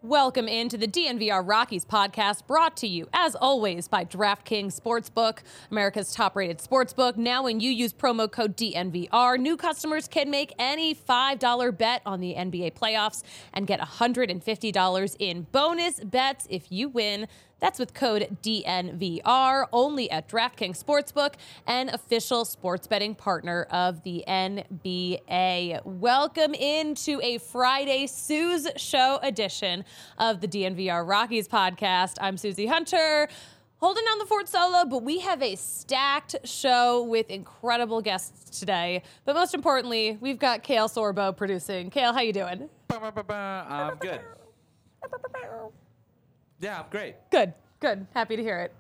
Welcome into the DNVR Rockies podcast, brought to you, as always, by DraftKings Sportsbook, America's top-rated sportsbook. Now, when you use promo code DNVR, new customers can make any $5 bet on the NBA playoffs and get $150 in bonus bets if you win. That's with code DNVR, only at DraftKings Sportsbook, an official sports betting partner of the NBA. Welcome into a Friday Suze Show edition of the DNVR Rockies podcast. I'm Susie Hunter, holding down the fort solo, but we have a stacked show with incredible guests today. But most importantly, we've got Kale Sorbo producing. Kale, how you doing? I'm good. Yeah, I'm great. Good. Happy to hear it.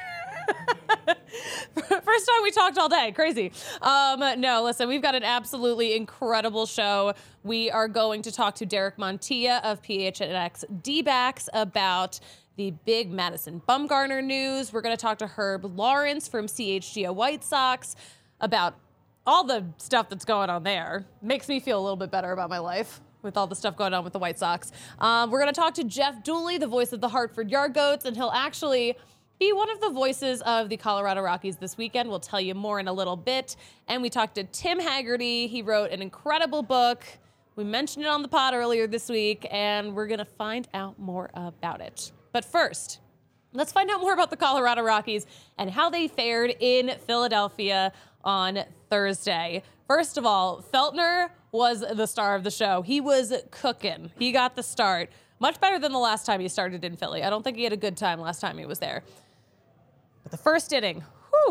First time we talked all day. Crazy. No, listen, we've got an absolutely incredible show. We are going to talk to Derek Montilla of PHNX D-backs about the big Madison Bumgarner news. We're going to talk to Herb Lawrence from CHGO White Sox about all the stuff that's going on there. Makes me feel a little bit better about my life with all the stuff going on with the White Sox. We're going to talk to Jeff Dooley, the voice of the Hartford Yard Goats, and he'll actually be one of the voices of the Colorado Rockies this weekend. We'll tell you more in a little bit. And we talked to Tim Haggerty. He wrote an incredible book. We mentioned it on the pod earlier this week, and we're going to find out more about it. But first, let's find out more about the Colorado Rockies and how they fared in Philadelphia on Thursday. First of all, Feltner was the star of the show. He was cooking. He got the start. Much better than the last time he started in Philly. I don't think he had a good time last time he was there. But the first inning,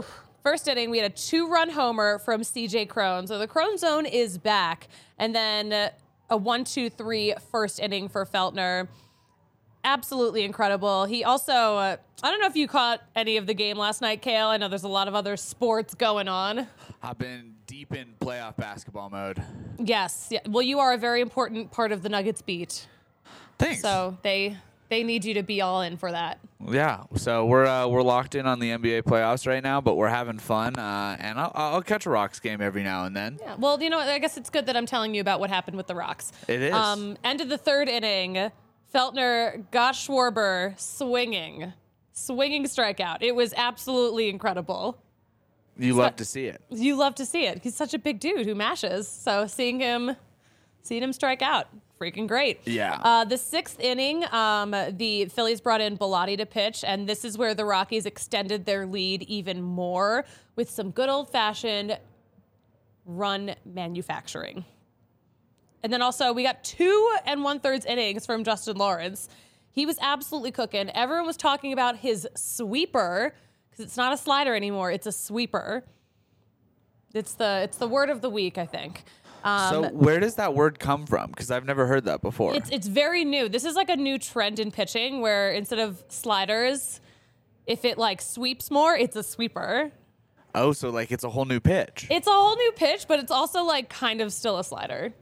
we had a 2-run homer from CJ Cron. So the Cron zone is back. And then a 1-2-3 first inning for Feltner. Absolutely incredible. He also, I don't know if you caught any of the game last night, Kale. I know there's a lot of other sports going on. I've been deep in playoff basketball mode. Yes. Yeah. Well, you are a very important part of the Nuggets beat. Thanks. So they need you to be all in for that. Yeah. So we're locked in on the NBA playoffs right now, but we're having fun. And I'll catch a Rocks game every now and then. Yeah. Well, you know what? I guess it's good that I'm telling you about what happened with the Rocks. It is. End of the third inning, Feltner got Schwarber swinging strikeout. It was absolutely incredible. You love to see it. You love to see it. He's such a big dude who mashes. So seeing him strike out, freaking great. Yeah. The sixth inning, the Phillies brought in Bellotti to pitch, and this is where the Rockies extended their lead even more with some good old-fashioned run manufacturing. And then also we got 2 1/3 innings from Justin Lawrence. He was absolutely cooking. Everyone was talking about his sweeper, because it's not a slider anymore. It's a sweeper. It's the word of the week, I think. So where does that word come from? Because I've never heard that before. It's very new. This is like a new trend in pitching where instead of sliders, if it like sweeps more, it's a sweeper. Oh, so like it's a whole new pitch. It's a whole new pitch, but it's also like kind of still a slider.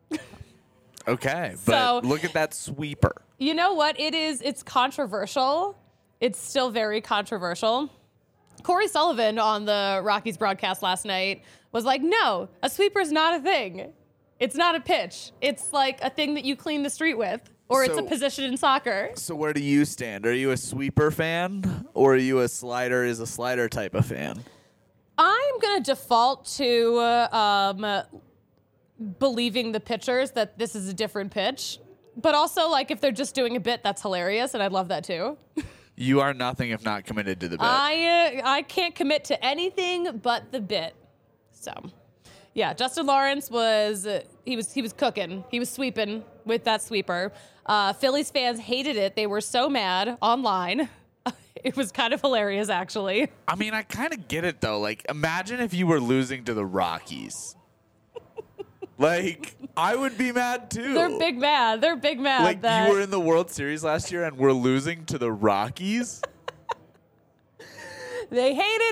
Okay, but So- look at that sweeper. You know what? It's controversial. It's still very controversial. Corey Sullivan on the Rockies broadcast last night was like, no, a sweeper's not a thing. It's not a pitch. It's like a thing that you clean the street with, or it's a So- position in soccer. So where do you stand? Are you a sweeper fan, or are you a slider is a slider type of fan? I'm going to default to believing the pitchers that this is a different pitch. But also, like, if they're just doing a bit, that's hilarious, and I'd love that too. You are nothing if not committed to the bit. I can't commit to anything but the bit. So, yeah, Justin Lawrence was cooking. He was sweeping with that sweeper. Phillies fans hated it. They were so mad online. It was kind of hilarious, actually. I mean, I kind of get it, though. Like, imagine if you were losing to the Rockies. Like, I would be mad, too. They're big mad. Like, that you were in the World Series last year and we're losing to the Rockies? They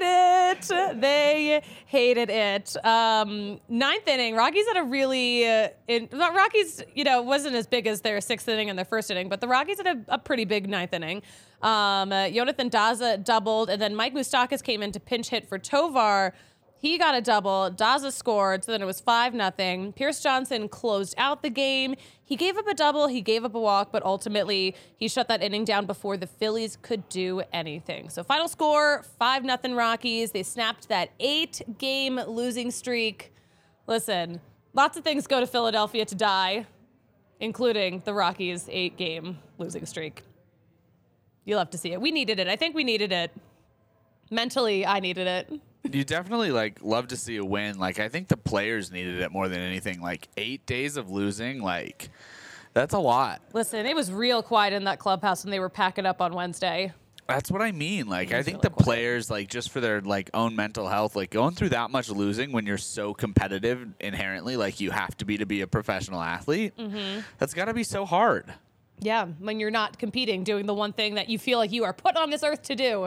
hated it. Ninth inning, Rockies had a really Rockies, wasn't as big as their sixth inning and their first inning, but the Rockies had a pretty big ninth inning. Jonathan Daza doubled, and then Mike Moustakas came in to pinch hit for Tovar. He got a double. Daza scored, so then it was 5-0. Pierce Johnson closed out the game. He gave up a double. He gave up a walk, but ultimately he shut that inning down before the Phillies could do anything. So final score, 5-0 Rockies. They snapped that 8-game losing streak. Listen, lots of things go to Philadelphia to die, including the Rockies' 8-game losing streak. You'll have to see it. We needed it. I think we needed it. Mentally, I needed it. You definitely love to see a win. I think the players needed it more than anything. 8 days of losing, that's a lot. Listen, it was real quiet in that clubhouse when they were packing up on Wednesday. That's what I mean. I think really the quiet. players, just for their own mental health, going through that much losing when you're so competitive inherently, you have to be a professional athlete. Mm-hmm. That's got to be so hard. Yeah, when you're not competing, doing the one thing that you feel like you are put on this earth to do.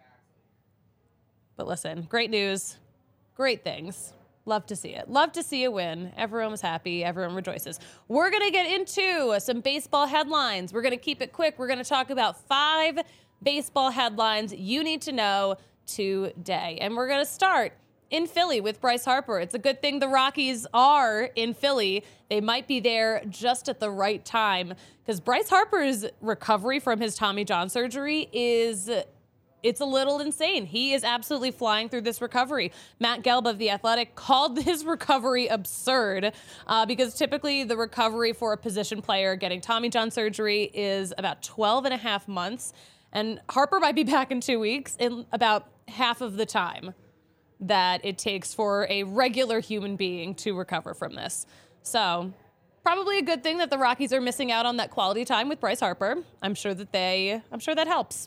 But listen, great news, great things. Love to see it. Love to see a win. Everyone was happy. Everyone rejoices. We're going to get into some baseball headlines. We're going to keep it quick. We're going to talk about 5 baseball headlines you need to know today. And we're going to start in Philly with Bryce Harper. It's a good thing the Rockies are in Philly. They might be there just at the right time because Bryce Harper's recovery from his Tommy John surgery it's a little insane. He is absolutely flying through this recovery. Matt Gelb of The Athletic called his recovery absurd because typically the recovery for a position player getting Tommy John surgery is about 12 and a half months. And Harper might be back in 2 weeks in about half of the time that it takes for a regular human being to recover from this. So probably a good thing that the Rockies are missing out on that quality time with Bryce Harper. I'm sure that helps.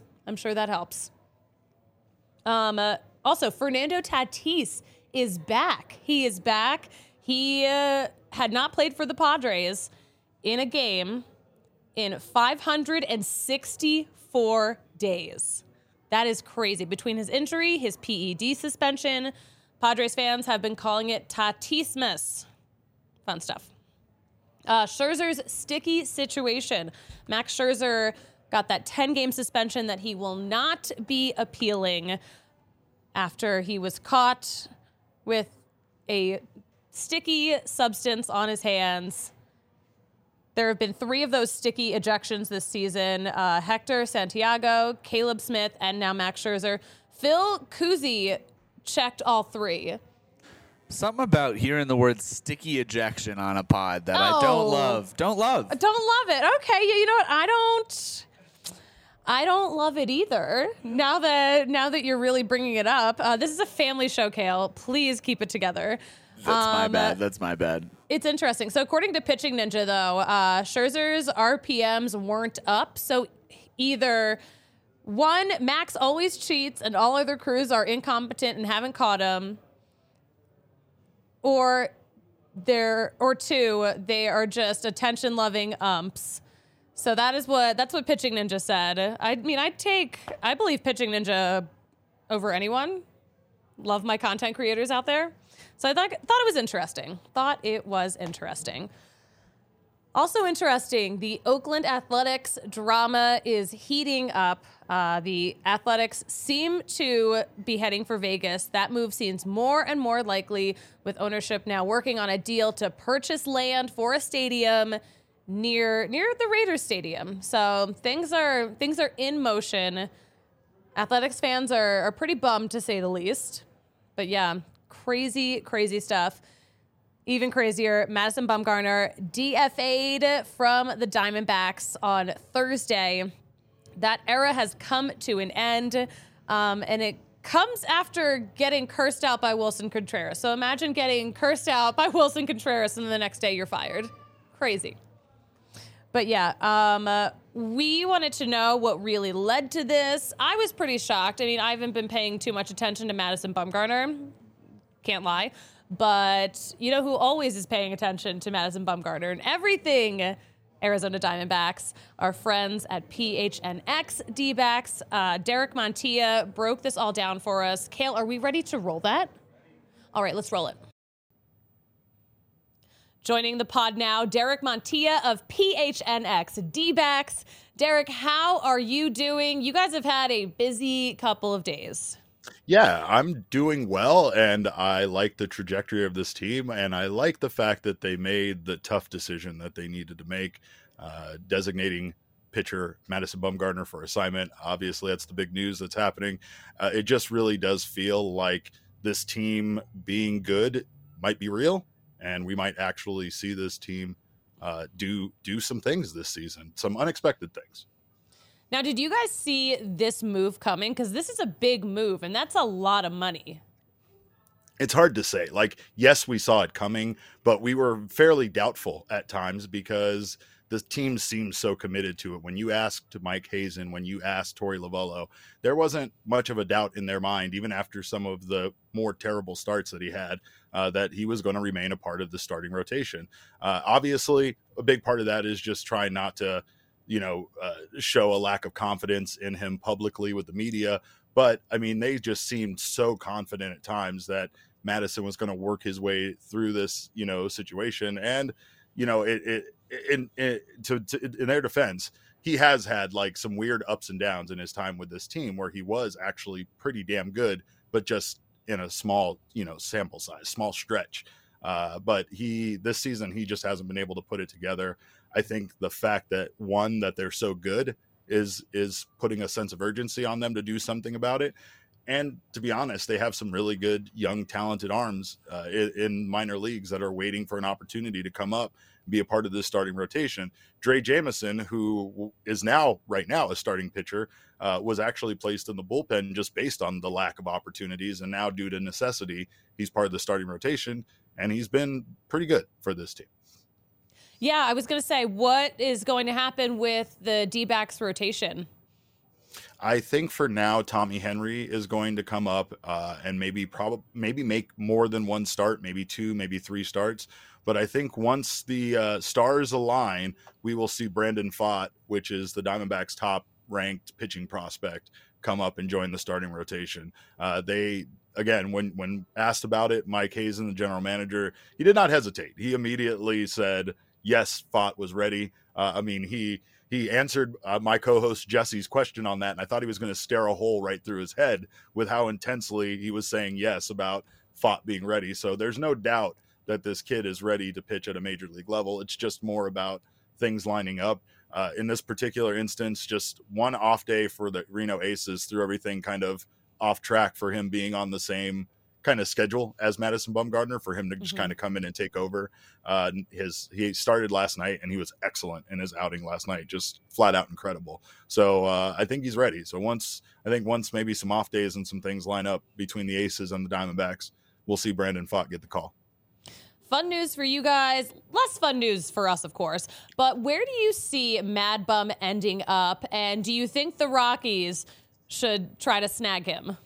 Also, Fernando Tatis is back. He is back. He had not played for the Padres in a game in 564 days. That is crazy. Between his injury, his PED suspension, Padres fans have been calling it Tatismus. Fun stuff. Scherzer's sticky situation. Max Scherzer got that 10-game suspension that he will not be appealing after he was caught with a sticky substance on his hands. There have been 3 of those sticky ejections this season. Hector Santiago, Caleb Smith, and now Max Scherzer. Phil Cousy checked all 3. Something about hearing the word sticky ejection on a pod that I don't love. Don't love it. Okay, you know what? I don't love it either. Now that you're really bringing it up, this is a family show, Kale. Please keep it together. That's my bad. It's interesting. So according to Pitching Ninja, though, Scherzer's RPMs weren't up. So either one, Max always cheats and all other crews are incompetent and haven't caught him, or 2, they are just attention-loving umps. So that's what Pitching Ninja said. I believe Pitching Ninja over anyone. Love my content creators out there. So I thought it was interesting. Also interesting, the Oakland Athletics drama is heating up. The Athletics seem to be heading for Vegas. That move seems more and more likely, with ownership now working on a deal to purchase land for a stadium near the Raiders stadium. So things are in motion. Athletics fans are pretty bummed, to say the least. But yeah, crazy stuff. Even crazier, Madison Bumgarner DFA'd from the Diamondbacks on Thursday. That era has come to an end, and it comes after getting cursed out by Wilson Contreras. So imagine getting cursed out by Wilson Contreras and the next day you're fired. Crazy. But yeah, we wanted to know what really led to this. I was pretty shocked. I mean, I haven't been paying too much attention to Madison Bumgarner. Can't lie. But you know who always is paying attention to Madison Bumgarner and everything Arizona Diamondbacks? Our friends at PHNX D-backs. Derek Montilla broke this all down for us. Kale, are we ready to roll that? All right, let's roll it. Joining the pod now, Derek Montilla of PHNX D-backs. Derek, how are you doing? You guys have had a busy couple of days. Yeah, I'm doing well, and I like the trajectory of this team, and I like the fact that they made the tough decision that they needed to make, designating pitcher Madison Bumgarner for assignment. Obviously, that's the big news that's happening. It just really does feel like this team being good might be real, and we might actually see this team do some things this season, some unexpected things. Now, did you guys see this move coming? Because this is a big move, and that's a lot of money. It's hard to say. Like, yes, we saw it coming, but we were fairly doubtful at times because the team seemed so committed to it. When you asked Mike Hazen, when you asked Torey Lovullo, there wasn't much of a doubt in their mind, even after some of the more terrible starts that he had, that he was going to remain a part of the starting rotation. Obviously, a big part of that is just trying not to, show a lack of confidence in him publicly with the media. But I mean, they just seemed so confident at times that Madison was going to work his way through this, situation. And, in their defense, he has had like some weird ups and downs in his time with this team where he was actually pretty damn good, but just in a small, sample size, small stretch. But this season, he just hasn't been able to put it together. I think the fact that that they're so good is putting a sense of urgency on them to do something about it. And to be honest, they have some really good, young, talented arms in minor leagues that are waiting for an opportunity to come up and be a part of this starting rotation. Dre Jameson, who is right now a starting pitcher, was actually placed in the bullpen just based on the lack of opportunities. And now, due to necessity, he's part of the starting rotation, and he's been pretty good for this team. Yeah, I was going to say, what is going to happen with the D-backs rotation? I think for now, Tommy Henry is going to come up and maybe make more than one start, maybe two, maybe three starts. But I think once the stars align, we will see Brandon Pfaadt, which is the Diamondbacks' top-ranked pitching prospect, come up and join the starting rotation. Again, when asked about it, Mike Hazen, the general manager, he did not hesitate. He immediately said, yes, Pfaadt was ready. He answered my co-host Jesse's question on that, and I thought he was going to stare a hole right through his head with how intensely he was saying yes about Pfaadt being ready. So there's no doubt that this kid is ready to pitch at a major league level. It's just more about things lining up. In this particular instance, just one off day for the Reno Aces threw everything kind of off track for him being on the same kind of schedule as Madison Bumgarner, for him to just kind of come in and take over. He started last night and he was excellent in his outing last night, just flat out incredible. So I think he's ready. So once maybe some off days and some things line up between the Aces and the Diamondbacks, we'll see Brandon Pfaadt get the call. Fun news for you guys, less fun news for us, of course. But where do you see Mad Bum ending up? And do you think the Rockies should try to snag him?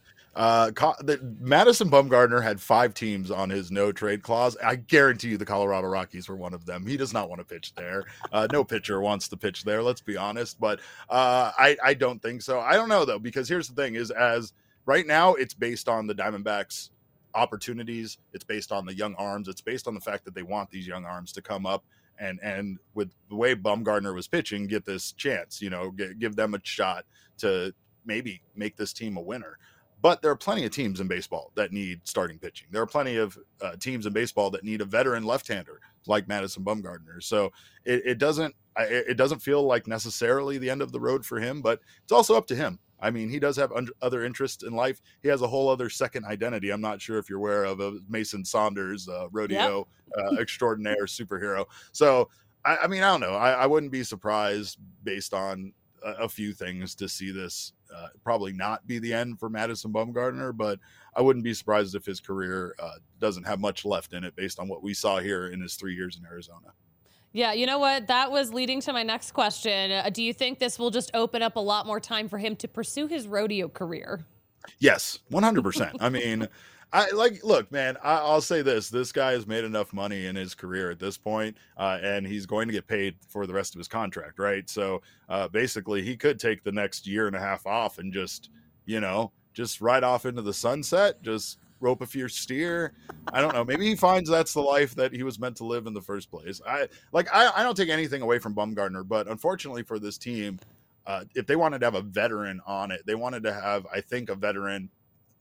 Madison Bumgarner had 5 teams on his no trade clause. I guarantee you the Colorado Rockies were one of them. He does not want to pitch there. No pitcher wants to pitch there, let's be honest. But I don't think so. I don't know, though, because here's the thing is, as right now, it's based on the Diamondbacks' opportunities. It's based on the young arms. It's based on the fact that they want these young arms to come up and with the way Bumgarner was pitching, get this chance, give them a shot to maybe make this team a winner. But there are plenty of teams in baseball that need starting pitching. There are plenty of teams in baseball that need a veteran left-hander like Madison Bumgarner. So it doesn't feel like necessarily the end of the road for him, but it's also up to him. I mean, he does have other interests in life. He has a whole other second identity. I'm not sure if you're aware of Mason Saunders, rodeo extraordinaire superhero. So, I mean, I don't know. I wouldn't be surprised based on a few things to see this probably not be the end for Madison Bumgarner, but I wouldn't be surprised if his career doesn't have much left in it based on what we saw here in his 3 years in Arizona. Yeah, you know what? That was leading to my next question. Do you think this will just open up a lot more time for him to pursue his rodeo career? Yes, 100%. I mean, look, man, I'll say this guy has made enough money in his career at this point, and he's going to get paid for the rest of his contract, right? So basically he could take the next year and a half off and just ride off into the sunset, just rope a few steer. I don't know. Maybe he finds that's the life that he was meant to live in the first place. I don't take anything away from Bumgarner, but unfortunately for this team, if they wanted to have a veteran on it, they wanted to have, I think, a veteran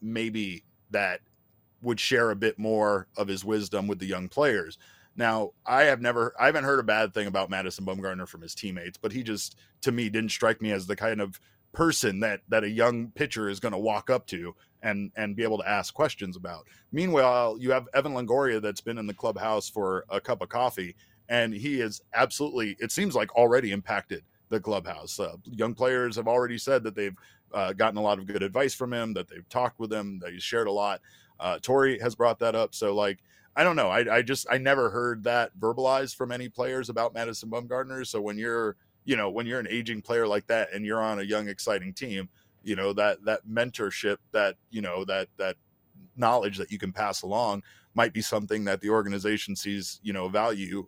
maybe that would share a bit more of his wisdom with the young players. Now, I haven't heard a bad thing about Madison Bumgarner from his teammates, but he just, to me, didn't strike me as the kind of person that a young pitcher is going to walk up to and be able to ask questions about. Meanwhile, you have Evan Longoria that's been in the clubhouse for a cup of coffee, and he is absolutely, it seems like, already impacted the clubhouse. Young players have already said that they've gotten a lot of good advice from him, that they've talked with him, that he's shared a lot. Torrey has brought that up. So, like, I don't know. I never heard that verbalized from any players about Madison Bumgarner. So when you're an aging player like that and you're on a young, exciting team, that mentorship, that knowledge that you can pass along might be something that the organization sees, a value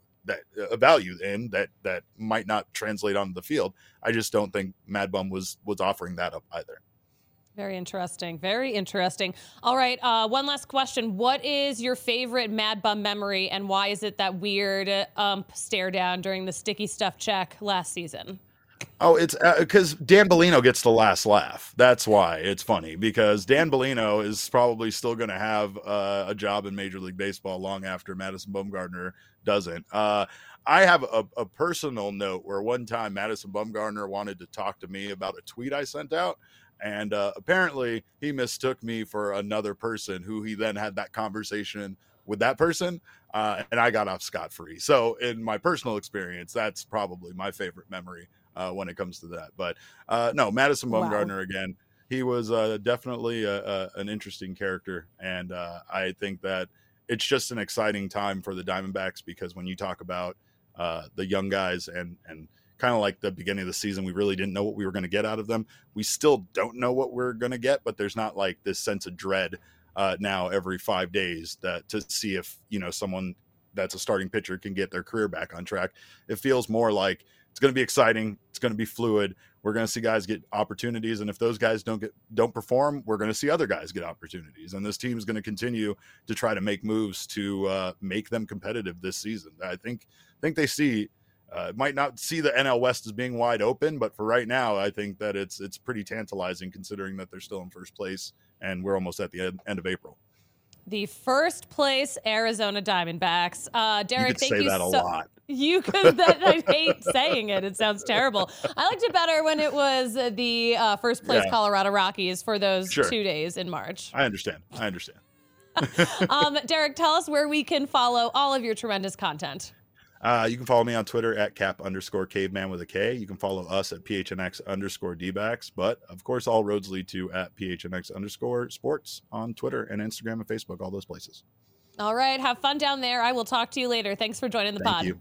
in that might not translate onto the field. I just don't think Mad Bum was offering that up either. Very interesting. Very interesting. All right. One last question. What is your favorite Mad Bum memory, and why is it that weird stare down during the sticky stuff check last season? Oh, it's because Dan Bellino gets the last laugh. That's why it's funny, because Dan Bellino is probably still going to have a job in Major League Baseball long after Madison Bumgarner doesn't. I have a personal note where one time Madison Bumgarner wanted to talk to me about a tweet I sent out. And apparently he mistook me for another person who he then had that conversation with that person. And I got off scot-free. So in my personal experience, that's probably my favorite memory when it comes to that. But no, Madison Bumgarner, again, he was definitely an interesting character. And I think that it's just an exciting time for the Diamondbacks, because when you talk about the young guys and kind of like the beginning of the season, we really didn't know what we were going to get out of them. We still don't know what we're going to get, but there's not like this sense of dread now every 5 days that to see if, someone that's a starting pitcher can get their career back on track. It feels more like it's going to be exciting. It's going to be fluid. We're going to see guys get opportunities. And if those guys don't perform, we're going to see other guys get opportunities. And this team is going to continue to try to make moves to make them competitive this season. I think they see, might not see the NL West as being wide open, but for right now, I think that it's pretty tantalizing, considering that they're still in first place and we're almost at the end of April. The first place Arizona Diamondbacks. Derek, thank you. You could say that a lot. You could. I hate saying it. It sounds terrible. I liked it better when it was the first place Colorado Rockies for those 2 days in March. I understand. Derek, tell us where we can follow all of your tremendous content. You can follow me on Twitter at @cap_caveman with a K. You can follow us at PHNX_DBacks. But of course, all roads lead to at PHNX_sports on Twitter and Instagram and Facebook, all those places. All right. Have fun down there. I will talk to you later. Thanks for joining the pod. Thank you.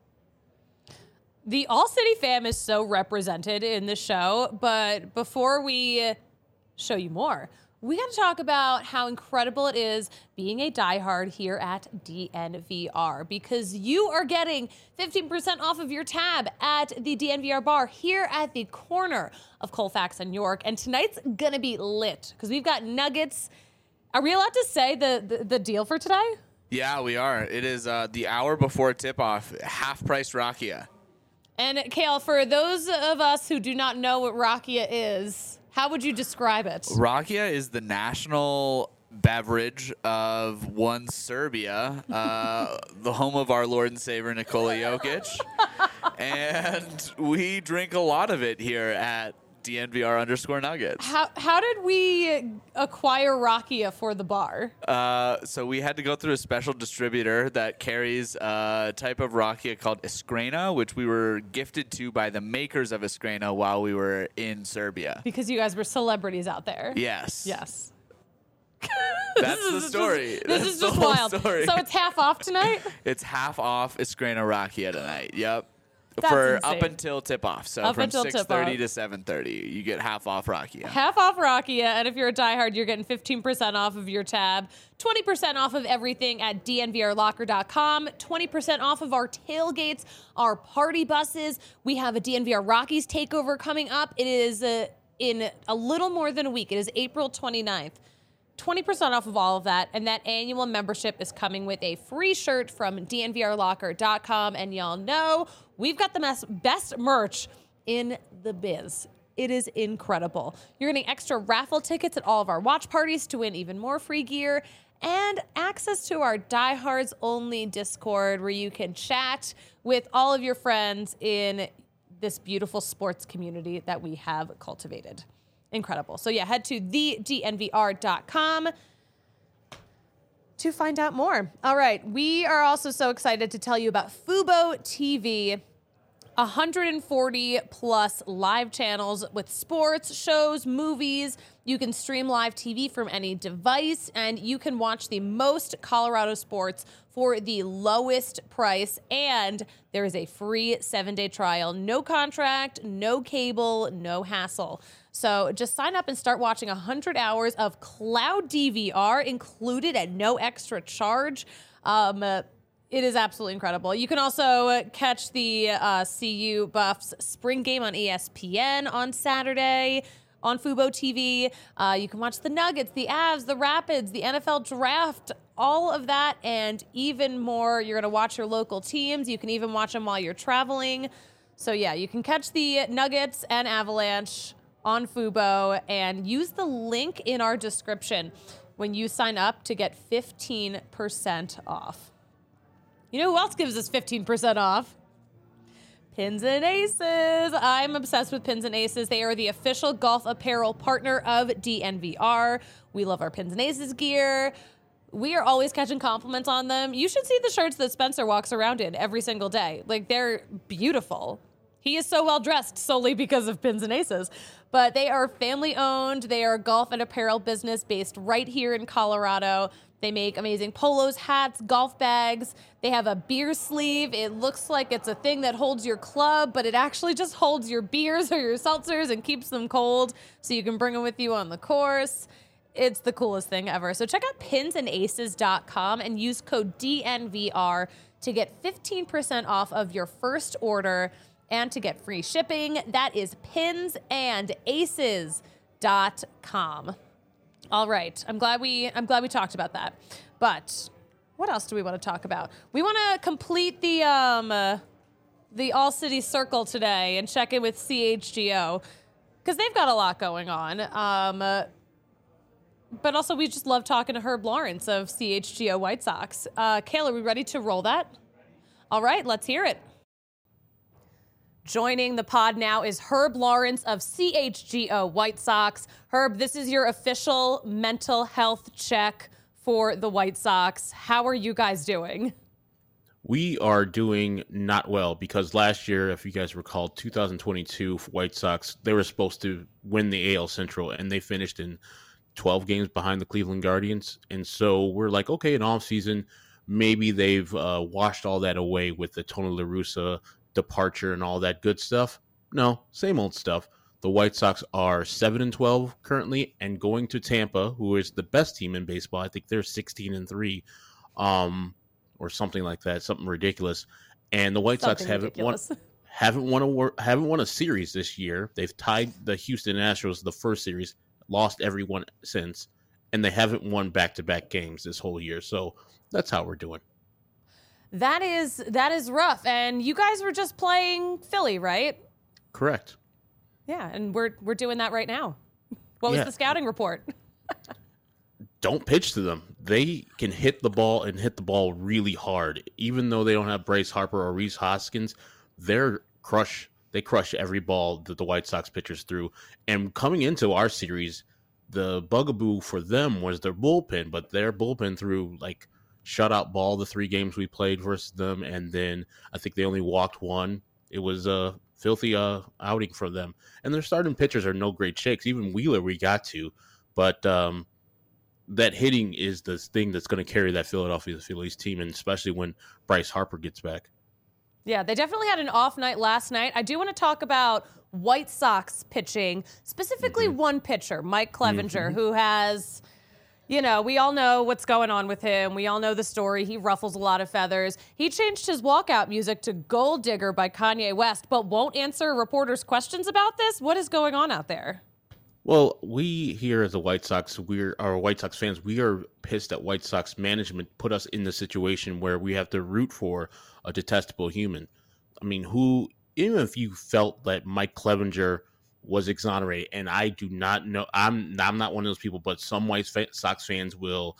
The All City fam is so represented in the show. But before we show you more, we got to talk about how incredible it is being a diehard here at DNVR, because you are getting 15% off of your tab at the DNVR bar here at the corner of Colfax and York. And tonight's going to be lit because we've got nuggets. Are we allowed to say the deal for today? Yeah, we are. It is the hour before tip-off, half-price Rakia. And Kale, for those of us who do not know what Rakia is, how would you describe it? Rakia is the national beverage of one Serbia, the home of our Lord and Savior Nikola Jokic. And we drink a lot of it here at DNVR_Nuggets. How did we acquire Rakia for the bar? So we had to go through a special distributor that carries a type of Rakia called Iskrena, which we were gifted to by the makers of Iskrena while we were in Serbia. Because you guys were celebrities out there. Yes. Yes. That's the story. This is just wild. Story. So it's half off tonight? It's half off Iskrena Rakia tonight. Yep. That's for insane. Up until tip-off. So up from until 6:30 to 7:30, you get half off Rakia. Half off Rakia, and if you're a diehard, you're getting 15% off of your tab, 20% off of everything at DNVRlocker.com, 20% off of our tailgates, our party buses. We have a DNVR Rockies takeover coming up. It is in a little more than a week. It is April 29th. 20% off of all of that, and that annual membership is coming with a free shirt from DNVRlocker.com, and y'all know we've got the best merch in the biz. It is incredible. You're getting extra raffle tickets at all of our watch parties to win even more free gear and access to our Diehards Only Discord where you can chat with all of your friends in this beautiful sports community that we have cultivated. Incredible. So yeah, head to thednvr.com to find out more. All right, we are also so excited to tell you about Fubo TV. 140 plus live channels with sports, shows, movies. You can stream live TV from any device, and you can watch the most Colorado sports for the lowest price. And there is a free 7-day trial. No contract, no cable, no hassle. So just sign up and start watching 100 hours of cloud DVR included at no extra charge. It is absolutely incredible. You can also catch the CU Buffs spring game on ESPN on Saturday on Fubo TV. You can watch the Nuggets, the Avs, the Rapids, the NFL Draft, all of that and even more. You're going to watch your local teams. You can even watch them while you're traveling. So yeah, you can catch the Nuggets and Avalanche on Fubo and use the link in our description when you sign up to get 15% off. You know who else gives us 15% off? Pins and Aces. I'm obsessed with Pins and Aces. They are the official golf apparel partner of DNVR. We love our Pins and Aces gear. We are always catching compliments on them. You should see the shirts that Spencer walks around in every single day. Like, they're beautiful. He is so well dressed solely because of Pins and Aces. But they are family owned. They are a golf and apparel business based right here in Colorado. They make amazing polos, hats, golf bags. They have a beer sleeve. It looks like it's a thing that holds your club, but it actually just holds your beers or your seltzers and keeps them cold so you can bring them with you on the course. It's the coolest thing ever. So check out pinsandaces.com and use code DNVR to get 15% off of your first order and to get free shipping. That is pinsandaces.com. All right. I'm glad we talked about that. But what else do we want to talk about? We want to complete the All City Circle today and check in with CHGO because they've got a lot going on. But also we just love talking to Herb Lawrence of CHGO White Sox. Kayla, are we ready to roll that? All right, let's hear it. Joining the pod now is Herb Lawrence of CHGO White Sox. Herb, this is your official mental health check for the White Sox. How are you guys doing? We are doing not well because last year, if you guys recall, 2022 White Sox, they were supposed to win the AL Central and they finished in 12 games behind the Cleveland Guardians. And so we're like, okay, in off season, maybe they've washed all that away with the Tony La Russa departure and all that good stuff. No, same old stuff. The White Sox are 7-12 currently and going to Tampa, who is the best team in baseball. I think they're 16-3, or something like that, something ridiculous. And the White Sox haven't won a series this year. They've tied the Houston Astros the first series, lost every one since, and they haven't won back-to-back games this whole year. So that's how we're doing. That is rough. And you guys were just playing Philly, right? Correct. Yeah, and we're doing that right now. What was the scouting report? Don't pitch to them. They can hit the ball and hit the ball really hard. Even though they don't have Bryce Harper or Rhys Hoskins, they crush every ball that the White Sox pitchers threw. And coming into our series, the bugaboo for them was their bullpen, but their bullpen threw like shutout ball the 3 games we played versus them, and then I think they only walked one. It was a filthy outing for them. And their starting pitchers are no great shakes. Even Wheeler we got to, but that hitting is the thing that's going to carry that Philadelphia Phillies team, and especially when Bryce Harper gets back. Yeah, they definitely had an off night last night. I do want to talk about White Sox pitching, specifically one pitcher, Mike Clevinger, who has... You know, we all know what's going on with him. We all know the story. He ruffles a lot of feathers. He changed his walkout music to Gold Digger by Kanye West, but won't answer reporters' questions about this. What is going on out there? Well, we here as the White Sox, our White Sox fans, we are pissed that White Sox management put us in the situation where we have to root for a detestable human. I mean, even if you felt that Mike Clevinger was exonerated. And I do not know. I'm not one of those people, but some White Sox fans will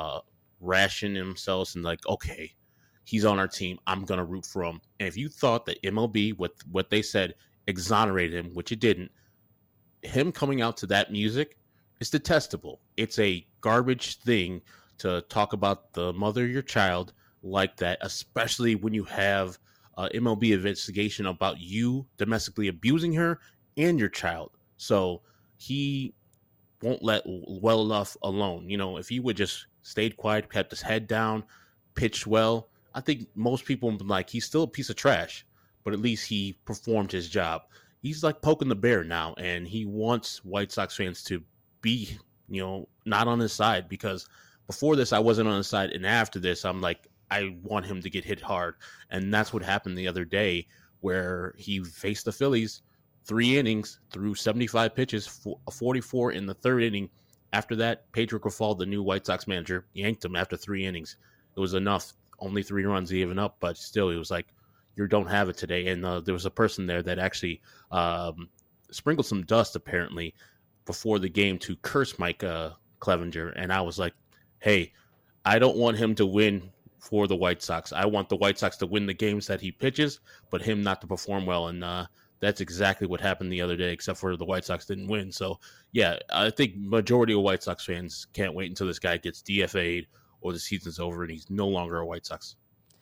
ration themselves and like, okay, he's on our team, I'm gonna root for him. And if you thought that MLB, with what they said, exonerated him, which it didn't, him coming out to that music is detestable. It's a garbage thing to talk about the mother of your child like that, especially when you have MLB investigation about you domestically abusing her and your child. So he won't let well enough alone. You know, if he would just stayed quiet, kept his head down, pitched well, I think most people would be like, he's still a piece of trash, but at least he performed his job. He's like poking the bear now, and he wants White Sox fans to be, you know, not on his side, because before this, I wasn't on his side. And after this, I'm like, I want him to get hit hard. And that's what happened the other day, where he faced the Phillies 3 innings, threw 75 pitches, 44 in the 3rd inning. After that, Pedro Grifol, the new White Sox manager, yanked him after 3 innings. It was enough. Only 3 runs given up, but still, he was like, you don't have it today. And there was a person there that actually sprinkled some dust, apparently, before the game to curse Mike Clevenger. And I was like, hey, I don't want him to win for the White Sox. I want the White Sox to win the games that he pitches, but him not to perform well. And that's exactly what happened the other day, except for the White Sox didn't win. So, yeah, I think majority of White Sox fans can't wait until this guy gets DFA'd or the season's over and he's no longer a White Sox.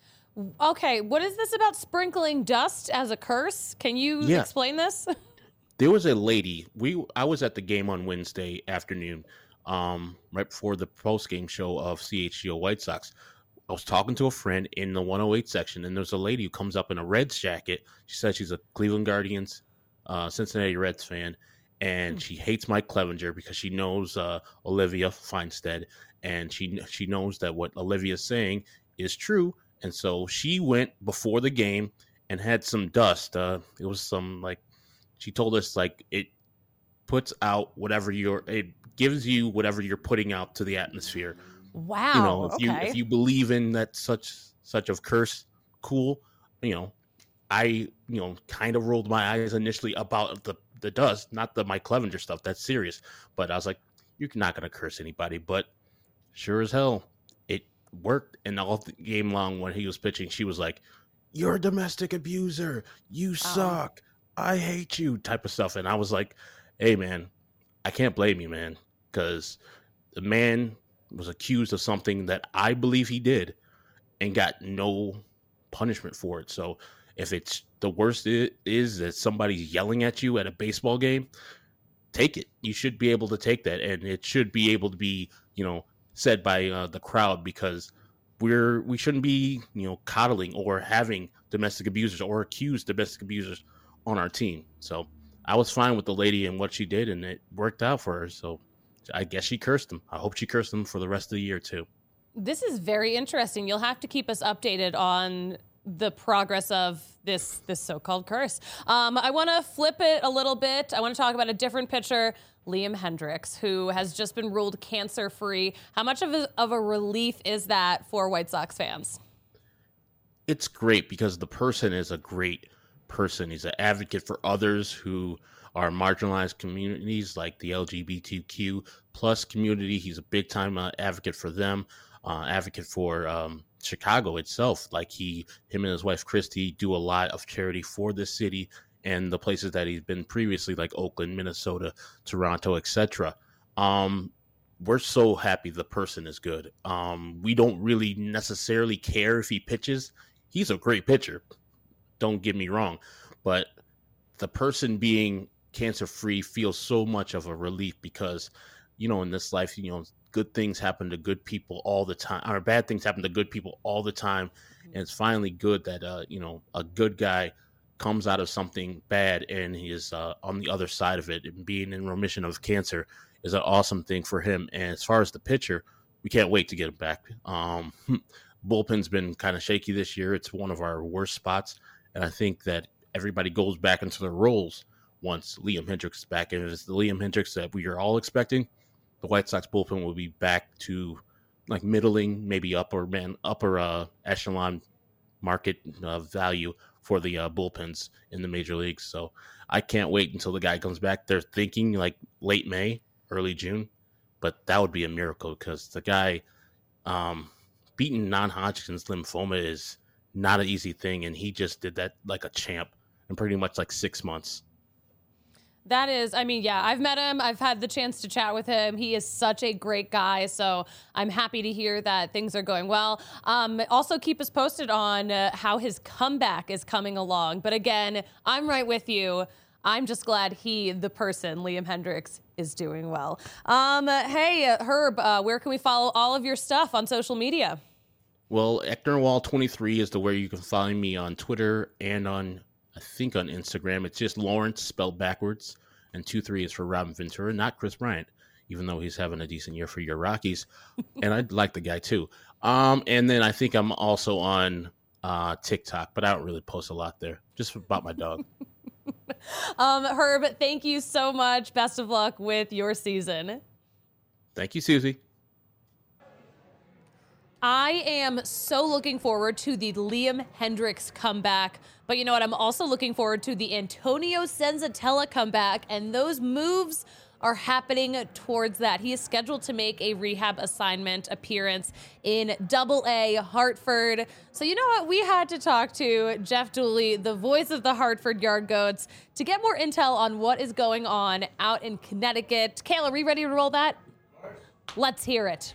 Okay, what is this about sprinkling dust as a curse? Can you explain this? There was a lady. I was at the game on Wednesday afternoon, right before the post-game show of CHGO White Sox. I was talking to a friend in the 108 section, and there's a lady who comes up in a Reds jacket. She says she's a Cleveland Guardians, Cincinnati Reds fan, and she hates Mike Clevenger because she knows Olivia Feinstead, and she knows that what Olivia's saying is true. And so she went before the game and had some dust. It was some, like, she told us, like, it puts out whatever it gives you whatever you're putting out to the atmosphere. Wow. You know, if you believe in that such of curse, cool. You know, I kind of rolled my eyes initially about the dust, not the Mike Clevenger stuff. That's serious. But I was like, you're not going to curse anybody. But sure as hell, it worked. And all the game long when he was pitching, she was like, you're a domestic abuser. You suck. I hate you, type of stuff. And I was like, hey, man, I can't blame you, man, because the man was accused of something that I believe he did and got no punishment for it. So if it's the worst is that somebody's yelling at you at a baseball game, take it. You should be able to take that, and it should be able to be, said by the crowd, because we shouldn't be, coddling or having domestic abusers or accused domestic abusers on our team. So I was fine with the lady and what she did, and it worked out for her. So I guess she cursed him. I hope she cursed him for the rest of the year too. This is very interesting. You'll have to keep us updated on the progress of this so-called curse. I want to flip it a little bit. I want to talk about a different pitcher, Liam Hendriks, who has just been ruled cancer-free. How much of a relief is that for White Sox fans? It's great because the person is a great person. He's an advocate for others who are marginalized communities like the LGBTQ plus community. He's a big-time advocate for them, advocate for Chicago itself. Like him and his wife Christy do a lot of charity for this city and the places that he's been previously, like Oakland, Minnesota, Toronto, etc. We're so happy the person is good. We don't really necessarily care if he pitches. He's a great pitcher, don't get me wrong, but the person being cancer-free feels so much of a relief because, in this life, good things happen to good people all the time, or bad things happen to good people all the time. And it's finally good that, a good guy comes out of something bad and he is on the other side of it, and being in remission of cancer is an awesome thing for him. And as far as the pitcher, we can't wait to get him back. Bullpen's been kind of shaky this year. It's one of our worst spots. And I think that everybody goes back into their roles once Liam Hendriks is back. And if it's the Liam Hendriks that we are all expecting, the White Sox bullpen will be back to like middling, maybe upper echelon market value for the bullpens in the major leagues. So I can't wait until the guy comes back. They're thinking like late May, early June, but that would be a miracle because the guy beating non-Hodgkin's lymphoma is not an easy thing, and he just did that like a champ in pretty much like 6 months. That is, I mean, yeah, I've met him. I've had the chance to chat with him. He is such a great guy. So I'm happy to hear that things are going well. Also, keep us posted on how his comeback is coming along. But again, I'm right with you. I'm just glad he, the person, Liam Hendriks, is doing well. Hey, Herb, where can we follow all of your stuff on social media? Well, Ecknerwall23 is the where you can find me on Twitter and on, I think, on Instagram. It's just Lawrence spelled backwards, and 23 is for Robin Ventura, not Chris Bryant, even though he's having a decent year for your Rockies. And I like the guy too. And then I think I'm also on TikTok, but I don't really post a lot there, just about my dog. Herb, thank you so much. Best of luck with your season. Thank you, Susie. I am so looking forward to the Liam Hendriks comeback, but you know what? I'm also looking forward to the Antonio Senzatella comeback, and those moves are happening towards that. He is scheduled to make a rehab assignment appearance in Double-A Hartford. So you know what? We had to talk to Jeff Dooley, the voice of the Hartford Yard Goats, to get more intel on what is going on out in Connecticut. Kayla, are we ready to roll that? Let's hear it.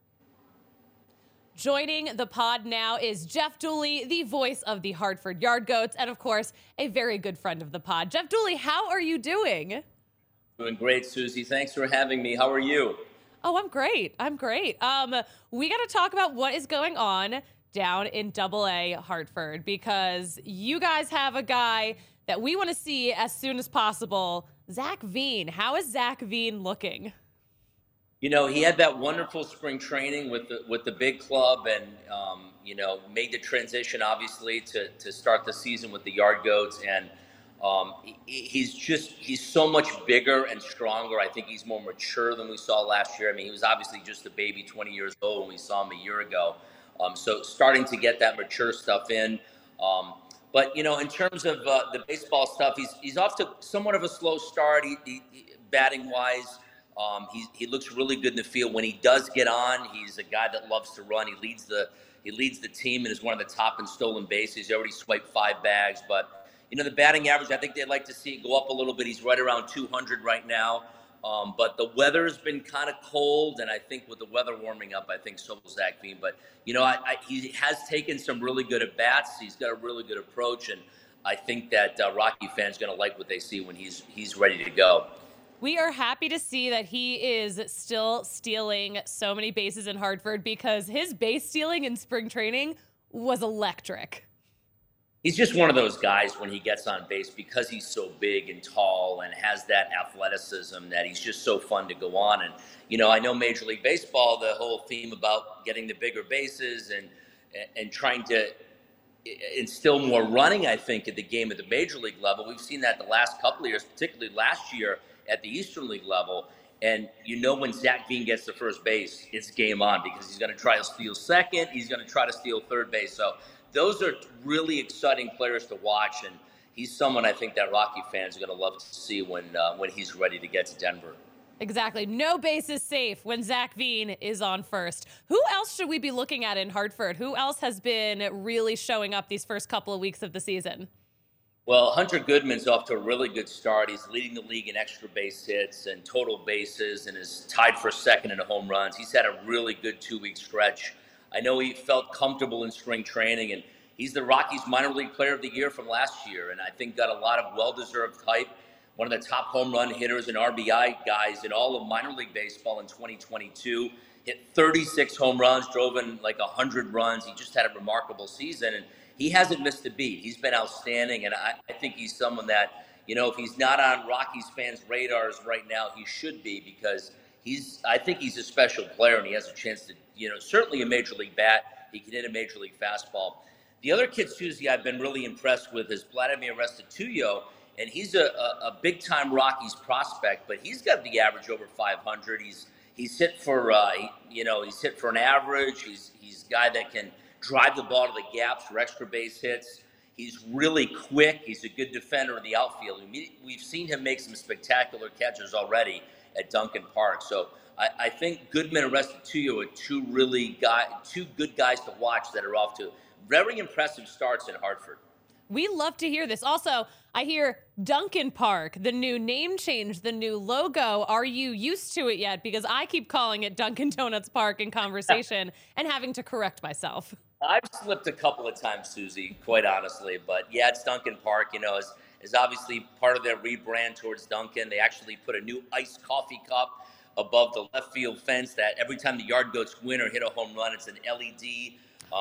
Joining the pod now is Jeff Dooley, the voice of the Hartford Yard Goats, and of course, a very good friend of the pod. Jeff Dooley, how are you doing? Doing great, Susie. Thanks for having me. How are you? Oh, I'm great. We got to talk about what is going on down in Double-A Hartford, because you guys have a guy that we want to see as soon as possible, Zach Veen. How is Zach Veen looking? You know, he had that wonderful spring training with the big club, and made the transition obviously to start the season with the Yard Goats, and he's so much bigger and stronger. I think he's more mature than we saw last year. I mean, he was obviously just a baby, 20 years old when we saw him a year ago. So starting to get that mature stuff in. But you know, in terms of the baseball stuff, he's off to somewhat of a slow start. He batting wise. He looks really good in the field. When he does get on, he's a guy that loves to run. He leads the team and is one of the top in stolen bases. He already swiped 5 bags. But, you know, the batting average, I think they'd like to see it go up a little bit. He's right around 200 right now. But the weather's been kind of cold, and I think with the weather warming up, I think so will Zach Veen. But, you know, he has taken some really good at-bats. He's got a really good approach, and I think that Rocky fans are going to like what they see when he's ready to go. We are happy to see that he is still stealing so many bases in Hartford, because his base stealing in spring training was electric. He's just one of those guys when he gets on base, because he's so big and tall and has that athleticism, that he's just so fun to go on. And, you know, I know Major League Baseball, the whole theme about getting the bigger bases and trying to instill more running, I think, at the game at the Major League level. We've seen that the last couple of years, particularly last year, at the Eastern League level. And you know, when Zach Veen gets to first base, it's game on, because he's going to try to steal second. He's going to try to steal third base. So those are really exciting players to watch. And he's someone I think that Rocky fans are going to love to see when he's ready to get to Denver. Exactly. No base is safe when Zach Veen is on first. Who else should we be looking at in Hartford? Who else has been really showing up these first couple of weeks of the season? Well, Hunter Goodman's off to a really good start. He's leading the league in extra base hits and total bases, and is tied for second in home runs. He's had a really good 2-week stretch. I know he felt comfortable in spring training, and he's the Rockies minor league player of the year from last year, and I think got a lot of well-deserved hype. One of the top home run hitters and RBI guys in all of minor league baseball in 2022. Hit 36 home runs, drove in like 100 runs. He just had a remarkable season, and he hasn't missed a beat. He's been outstanding, and I think he's someone that, you know, if he's not on Rockies fans' radars right now, he should be, because I think he's a special player, and he has a chance to, you know, certainly a major league bat. He can hit a major league fastball. The other kid, Susie, I've been really impressed with is Vladimir Restituyo, and he's a big-time Rockies prospect, but he's got the average over 500. He's hit for, he's hit for an average. He's a guy that can drive the ball to the gaps for extra base hits. He's really quick. He's a good defender in the outfield. We've seen him make some spectacular catches already at Duncan Park. So I think Goodman and Restituyo are two good guys to watch that are off to very impressive starts in Hartford. We love to hear this. Also, I hear Duncan Park, the new name change, the new logo. Are you used to it yet? Because I keep calling it Dunkin' Donuts Park in conversation and having to correct myself. I've slipped a couple of times, Susie, quite honestly. But yeah, it's Duncan Park, is obviously part of their rebrand towards Dunkin'. They actually put a new iced coffee cup above the left field fence that every time the Yard Goats win or hit a home run, it's an LED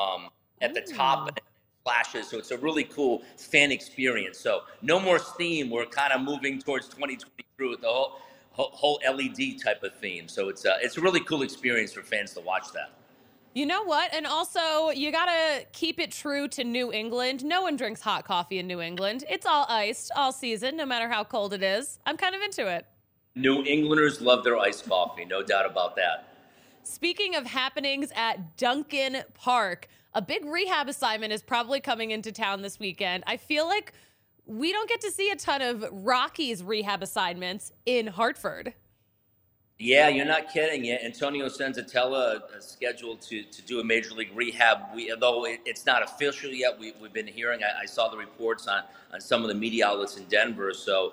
at the top and it flashes. So it's a really cool fan experience. So no more steam. We're kind of moving towards 2023 with the whole LED type of theme. So it's a really cool experience for fans to watch that. You know what? And also, you got to keep it true to New England. No one drinks hot coffee in New England. It's all iced all season, no matter how cold it is. I'm kind of into it. New Englanders love their iced coffee, no doubt about that. Speaking of happenings at Duncan Park, a big rehab assignment is probably coming into town this weekend. I feel like we don't get to see a ton of Rockies rehab assignments in Hartford. Yeah, you're not kidding. Yeah, Antonio Senzatella is scheduled to do a major league rehab. Although it's not official yet, we've been hearing. I saw the reports on some of the media outlets in Denver. So,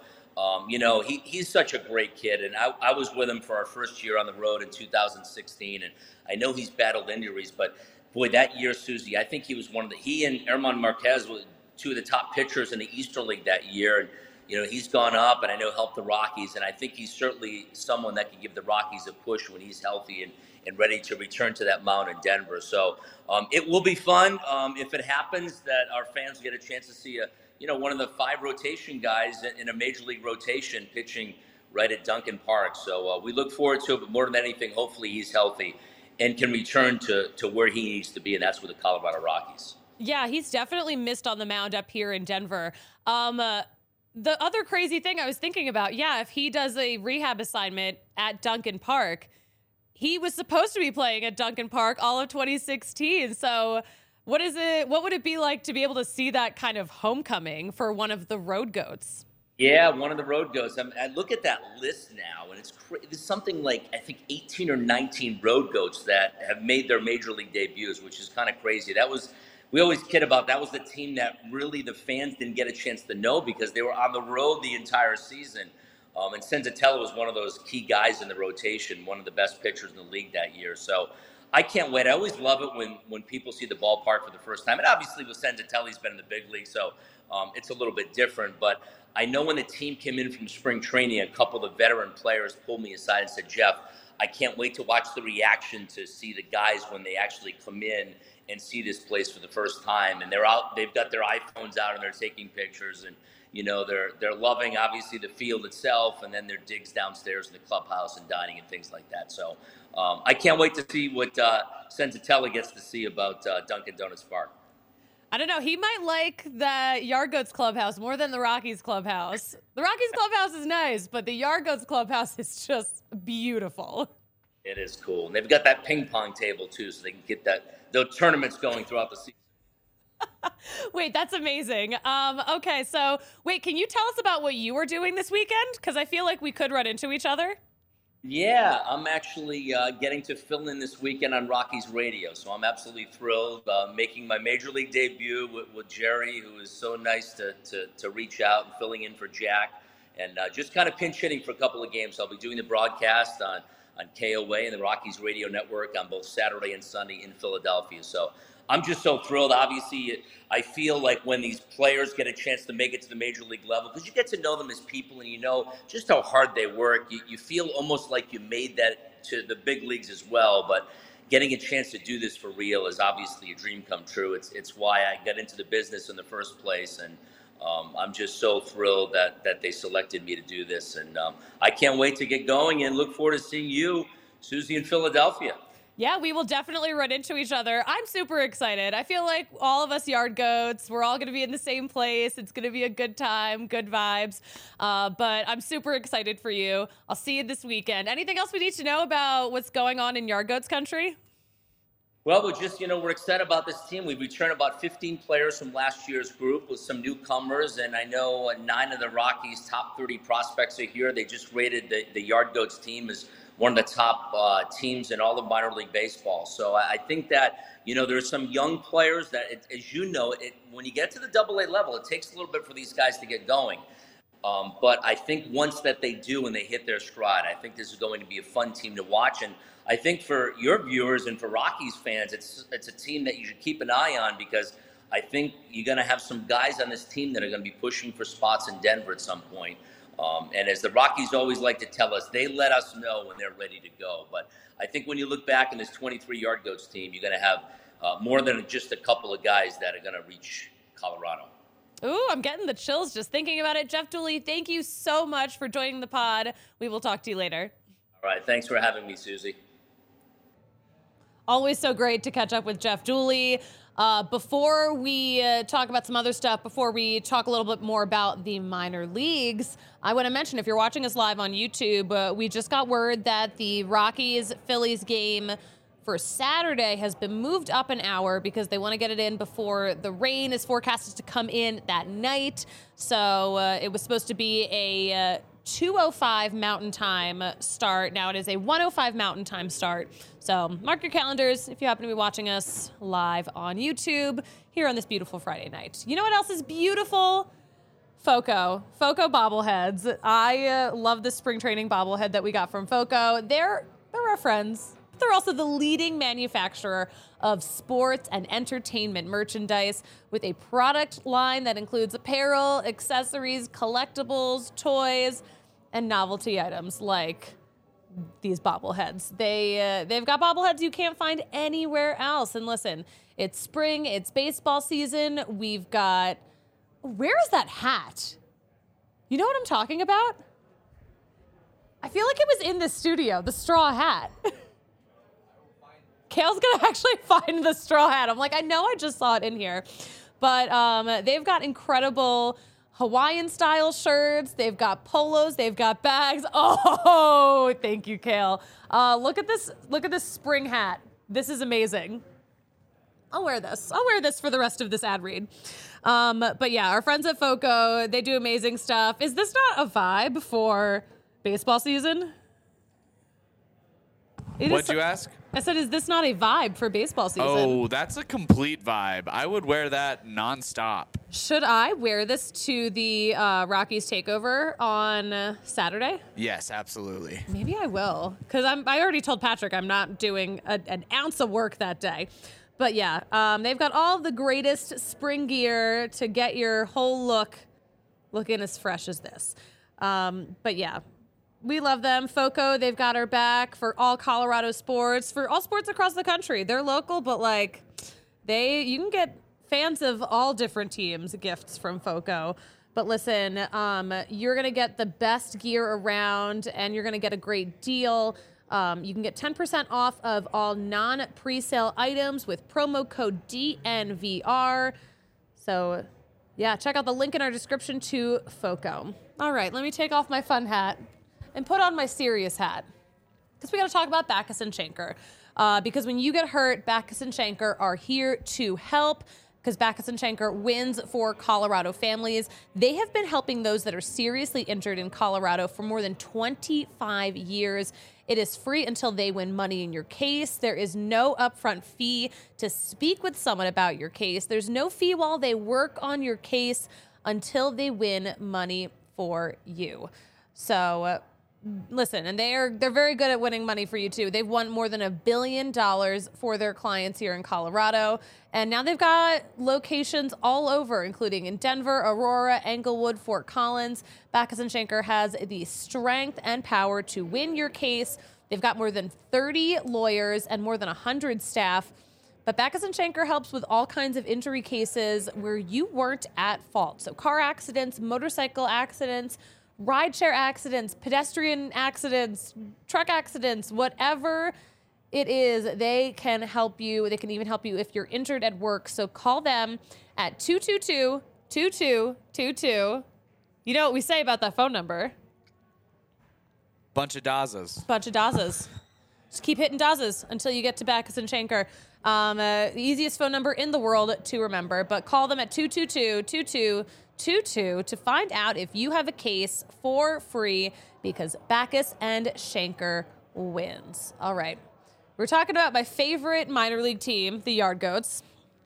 he's such a great kid, and I was with him for our first year on the road in 2016, and I know he's battled injuries, but boy, that year, Susie, I think he was he and Herman Marquez were two of the top pitchers in the Eastern League that year, and he's gone up, and I know helped the Rockies, and I think he's certainly someone that can give the Rockies a push when he's healthy and ready to return to that mound in Denver. So it will be fun if it happens that our fans get a chance to see one of the 5 rotation guys in a major league rotation pitching right at Duncan Park. So we look forward to it, but more than anything, hopefully he's healthy and can return to where he needs to be, and that's with the Colorado Rockies. Yeah, he's definitely missed on the mound up here in Denver. The other crazy thing I was thinking about, if he does a rehab assignment at Duncan Park, he was supposed to be playing at Duncan Park all of 2016. So what would it be like to be able to see that kind of homecoming for one of the Road Goats? Yeah, one of the Road Goats. I look at that list now, and it's something like, I think, 18 or 19 Road Goats that have made their major league debuts, which is kind of crazy. We always kid about that was the team that really the fans didn't get a chance to know because they were on the road the entire season. And Senzatella was one of those key guys in the rotation, one of the best pitchers in the league that year. So I can't wait. I always love it when people see the ballpark for the first time. And obviously with Senzatella, he's been in the big league, so it's a little bit different. But I know when the team came in from spring training, a couple of the veteran players pulled me aside and said, Jeff, I can't wait to watch the reaction to see the guys when they actually come in and see this place for the first time. And they've got their iPhones out and they're taking pictures, and they're loving obviously the field itself, and then their digs downstairs in the clubhouse and dining and things like that. So I can't wait to see what Senzatella gets to see about Dunkin' Donuts Park. I don't know. He might like the Yard Goats clubhouse more than the Rockies clubhouse. The Rockies clubhouse is nice, but the Yard Goats clubhouse is just beautiful. It is cool. And they've got that ping pong table too, so they can get those tournaments going throughout the season. Wait, that's amazing. Okay, so wait, can you tell us about what you were doing this weekend? Because I feel like we could run into each other. Yeah, I'm actually getting to fill in this weekend on Rockies Radio, so I'm absolutely thrilled. Making my major league debut with Jerry, who is so nice to reach out, and filling in for Jack, and just kind of pinch hitting for a couple of games. I'll be doing the broadcast on KOA and the Rockies Radio Network on both Saturday and Sunday in Philadelphia. So I'm just so thrilled. Obviously, I feel like when these players get a chance to make it to the major league level, because you get to know them as people and you know just how hard they work, you feel almost like you made that to the big leagues as well. But getting a chance to do this for real is obviously a dream come true. It's why I got into the business in the first place, and I'm just so thrilled that they selected me to do this. And I can't wait to get going and look forward to seeing you, Susie, in Philadelphia. Yeah, we will definitely run into each other. I'm super excited. I feel like all of us Yard Goats, we're all going to be in the same place. It's going to be a good time, good vibes. But I'm super excited for you. I'll see you this weekend. Anything else we need to know about what's going on in Yard Goats country? Well, we're excited about this team. We've returned about 15 players from last year's group with some newcomers, and I know 9 of the Rockies' top 30 prospects are here. They just rated the Yard Goats team as one of the top teams in all of minor league baseball. So I think that, there's some young players that, as you know, when you get to the AA level, it takes a little bit for these guys to get going. But I think once that they do and they hit their stride, I think this is going to be a fun team to watch. And I think for your viewers and for Rockies fans, it's a team that you should keep an eye on, because I think you're going to have some guys on this team that are going to be pushing for spots in Denver at some point. And as the Rockies always like to tell us, they let us know when they're ready to go. But I think when you look back in this 23 Yard Goats team, you're going to have more than just a couple of guys that are going to reach Colorado. Ooh, I'm getting the chills just thinking about it. Jeff Dooley, thank you so much for joining the pod. We will talk to you later. All right. Thanks for having me, Susie. Always so great to catch up with Jeff Dooley. Before we talk about some other stuff, before we talk a little bit more about the minor leagues, I want to mention, if you're watching us live on YouTube, we just got word that the Rockies-Phillies game for Saturday has been moved up an hour because they want to get it in before the rain is forecasted to come in that night. So it was supposed to be a 2:05 Mountain Time start. Now it is a 1:05 Mountain Time start. So mark your calendars if you happen to be watching us live on YouTube here on this beautiful Friday night. You know what else is beautiful? Foco bobbleheads. I love the spring training bobblehead that we got from Foco. They're our friends. They're also the leading manufacturer of sports and entertainment merchandise, with a product line that includes apparel, accessories, collectibles, toys, and novelty items like these bobbleheads. They've got bobbleheads you can't find anywhere else. And listen, it's spring, it's baseball season. We've got... Where is that hat? You know what I'm talking about? I feel like it was in the studio, the straw hat. Kale's going to actually find the straw hat. I'm like, I know I just saw it in here. But they've got incredible Hawaiian-style shirts. They've got polos. They've got bags. Oh, thank you, Kale. Look at this. Look at this spring hat. This is amazing. I'll wear this. I'll wear this for the rest of this ad read. But yeah, our friends at Foco, they do amazing stuff. Is this not a vibe for baseball season? What'd you ask? I said, is this not a vibe for baseball season? Oh, that's a complete vibe. I would wear that nonstop. Should I wear this to the Rockies takeover on Saturday? Yes, absolutely. Maybe I will, because I already told Patrick I'm not doing an ounce of work that day. But yeah, they've got all the greatest spring gear to get your whole look looking as fresh as this. But yeah. We love them. Foco, they've got our back for all Colorado sports, for all sports across the country. They're local, but like you can get fans of all different teams gifts from Foco. But listen, you're going to get the best gear around, and you're going to get a great deal. You can get 10% off of all non-presale items with promo code DNVR. So yeah, check out the link in our description to Foco. All right, let me take off my fun hat and put on my serious hat, because we got to talk about Backus and Schenker. Because when you get hurt, Backus and Schenker are here to help, because Backus and Schenker wins for Colorado families. They have been helping those that are seriously injured in Colorado for more than 25 years. It is free until they win money in your case. There is no upfront fee to speak with someone about your case. There's no fee while they work on your case until they win money for you. So... listen, and they're very good at winning money for you too. They've won more than $1 billion for their clients here in Colorado, and now they've got locations all over, including in Denver, Aurora, Englewood, Fort Collins. Backus and Schenker has the strength and power to win your case. They've got more than 30 lawyers and more than 100 staff. But Backus and Schenker helps with all kinds of injury cases where you weren't at fault. So car accidents, motorcycle accidents, rideshare accidents, pedestrian accidents, truck accidents, whatever it is, they can help you. They can even help you if you're injured at work. So call them at 222-2222. You know what we say about that phone number? Bunch of Dazas. Bunch of Dazas. Just keep hitting dozes until you get to Backus and Schenker. The easiest phone number in the world to remember, but call them at 222-2222 to find out if you have a case for free, because Backus and Schenker wins. All right. We're talking about my favorite minor league team, the Yard Goats.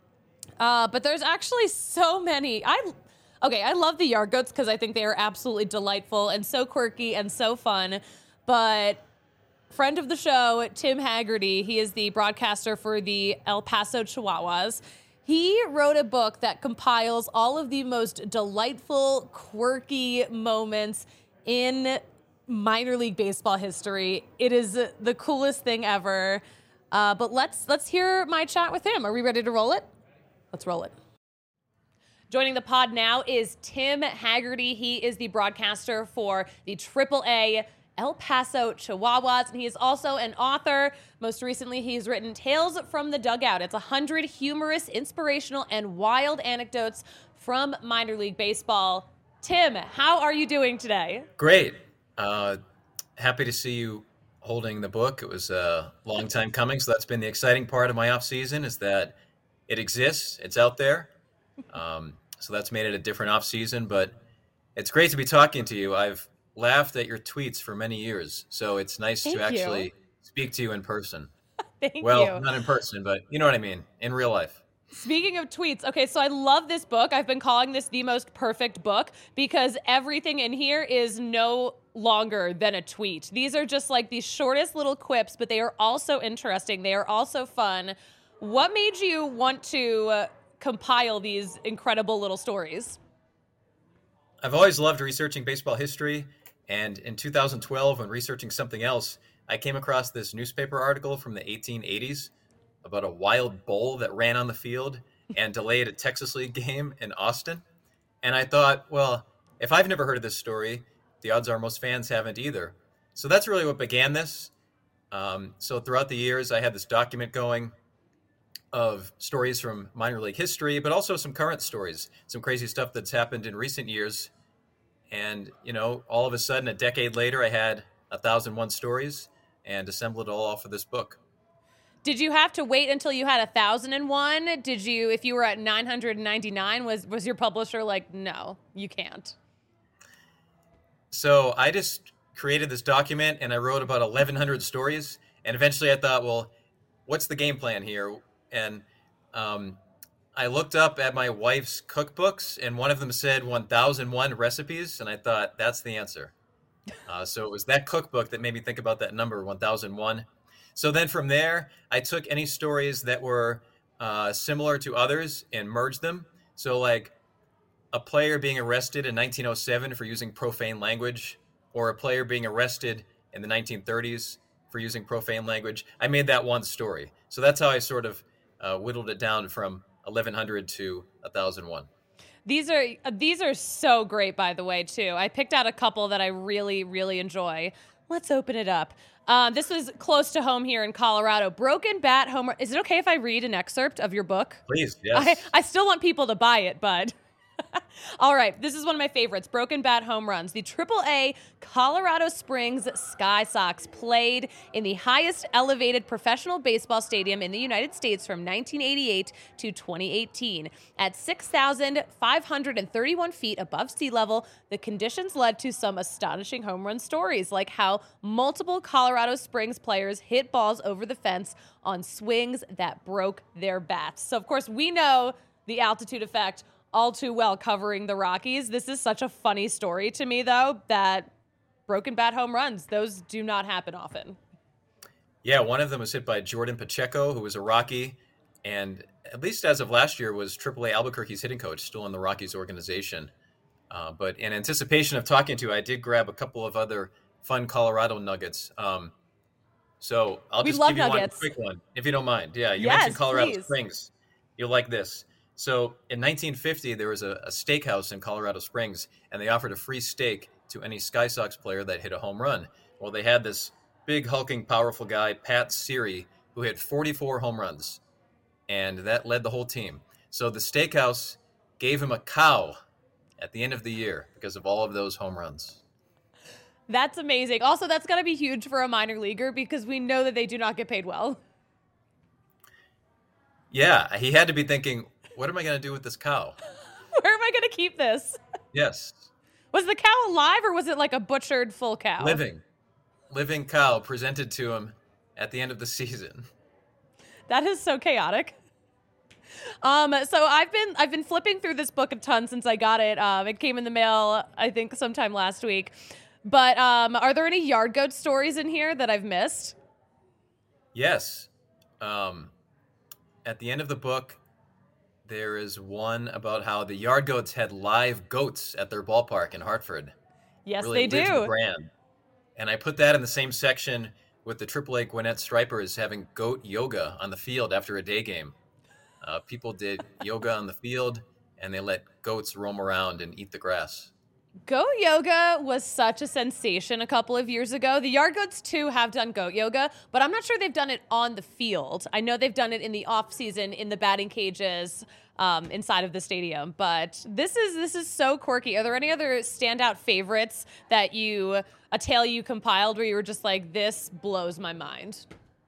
But there's actually so many. I love the Yard Goats because I think they are absolutely delightful and so quirky and so fun. But friend of the show, Tim Haggerty, he is the broadcaster for the El Paso Chihuahuas. He wrote a book that compiles all of the most delightful, quirky moments in minor league baseball history. It is the coolest thing ever. But let's hear my chat with him. Are we ready to roll it? Let's roll it. Joining the pod now is Tim Haggerty. He is the broadcaster for the AAA El Paso Chihuahuas, and he is also an author. Most recently, he's written Tales from the Dugout. It's 100 humorous, inspirational, and wild anecdotes from minor league baseball. Tim, how are you doing today? Great. Happy to see you holding the book. It was a long time coming, so that's been the exciting part of my off season, is that it exists. It's out there. So that's made it a different off season, but it's great to be talking to you. I've laughed at your tweets for many years, so it's nice to actually speak to you in person. Thank you. Well, not in person, but you know what I mean, in real life. Speaking of tweets, okay, so I love this book. I've been calling this the most perfect book because everything in here is no longer than a tweet. These are just like the shortest little quips, but they are also interesting. They are also fun. What made you want to compile these incredible little stories? I've always loved researching baseball history, and in 2012, when researching something else, I came across this newspaper article from the 1880s about a wild bull that ran on the field and delayed a Texas League game in Austin. And I thought, well, if I've never heard of this story, the odds are most fans haven't either. So that's really what began this. So throughout the years, I had this document going of stories from minor league history, but also some current stories, some crazy stuff that's happened in recent years. And, you know, all of a sudden, a decade later, I had 1,001 stories and assembled it all for this book. Did you have to wait until you had 1,001? Did you, if you were at 999, was your publisher like, no, you can't? So I just created this document and I wrote about 1,100 stories. And eventually I thought, well, what's the game plan here? And I looked up at my wife's cookbooks, and one of them said 1,001 recipes, and I thought, that's the answer. So it was that cookbook that made me think about that number, 1,001. So then from there, I took any stories that were similar to others and merged them. So like a player being arrested in 1907 for using profane language, or a player being arrested in the 1930s for using profane language, I made that one story. So that's how I sort of whittled it down from 1,100 to 1,001. These are so great, by the way, too. I picked out a couple that I really, really enjoy. Let's open it up. This was close to home here in Colorado. Broken Bat Home. Is it okay if I read an excerpt of your book? Please, yes. I still want people to buy it, bud. All right, this is one of my favorites, Broken Bat Home Runs. The AAA Colorado Springs Sky Sox played in the highest elevated professional baseball stadium in the United States from 1988 to 2018. At 6,531 feet above sea level, the conditions led to some astonishing home run stories, like how multiple Colorado Springs players hit balls over the fence on swings that broke their bats. So, of course, we know the altitude effect all too well covering the Rockies. This is such a funny story to me, though, that broken bat home runs, those do not happen often. Yeah, one of them was hit by Jordan Pacheco, who was a Rocky, and at least as of last year was AAA Albuquerque's hitting coach, still in the Rockies organization. But in anticipation of talking to you, I did grab a couple of other fun Colorado nuggets. So I'll just give you nuggets. One quick one, if you don't mind. Yeah, you Yes, mentioned Colorado please. Springs. You'll like this. So in 1950, there was a steakhouse in Colorado Springs, and they offered a free steak to any Sky Sox player that hit a home run. Well, they had this big, hulking, powerful guy, Pat Siri, who hit 44 home runs, and that led the whole team. So the steakhouse gave him a cow at the end of the year because of all of those home runs. That's amazing. Also, that's got to be huge for a minor leaguer because we know that they do not get paid well. Yeah, he had to be thinking, what am I going to do with this cow? Where am I going to keep this? Yes. Was the cow alive or was it like a butchered full cow? Living cow presented to him at the end of the season. That is so chaotic. So I've been flipping through this book a ton since I got it. It came in the mail, I think, sometime last week. But are there any yard goat stories in here that I've missed? Yes. At the end of the book, there is one about how the Yard Goats had live goats at their ballpark in Hartford. Yes, Really they lives do. the brand. And I put that in the same section with the AAA Gwinnett Stripers having goat yoga on the field after a day game. People did yoga on the field, and they let goats roam around and eat the grass. Goat yoga was such a sensation a couple of years ago. The Yard Goats, too, have done goat yoga, but I'm not sure they've done it on the field. I know they've done it in the off season in the batting cages inside of the stadium, but this is so quirky. Are there any other standout favorites that a tale you compiled where you were just like, this blows my mind?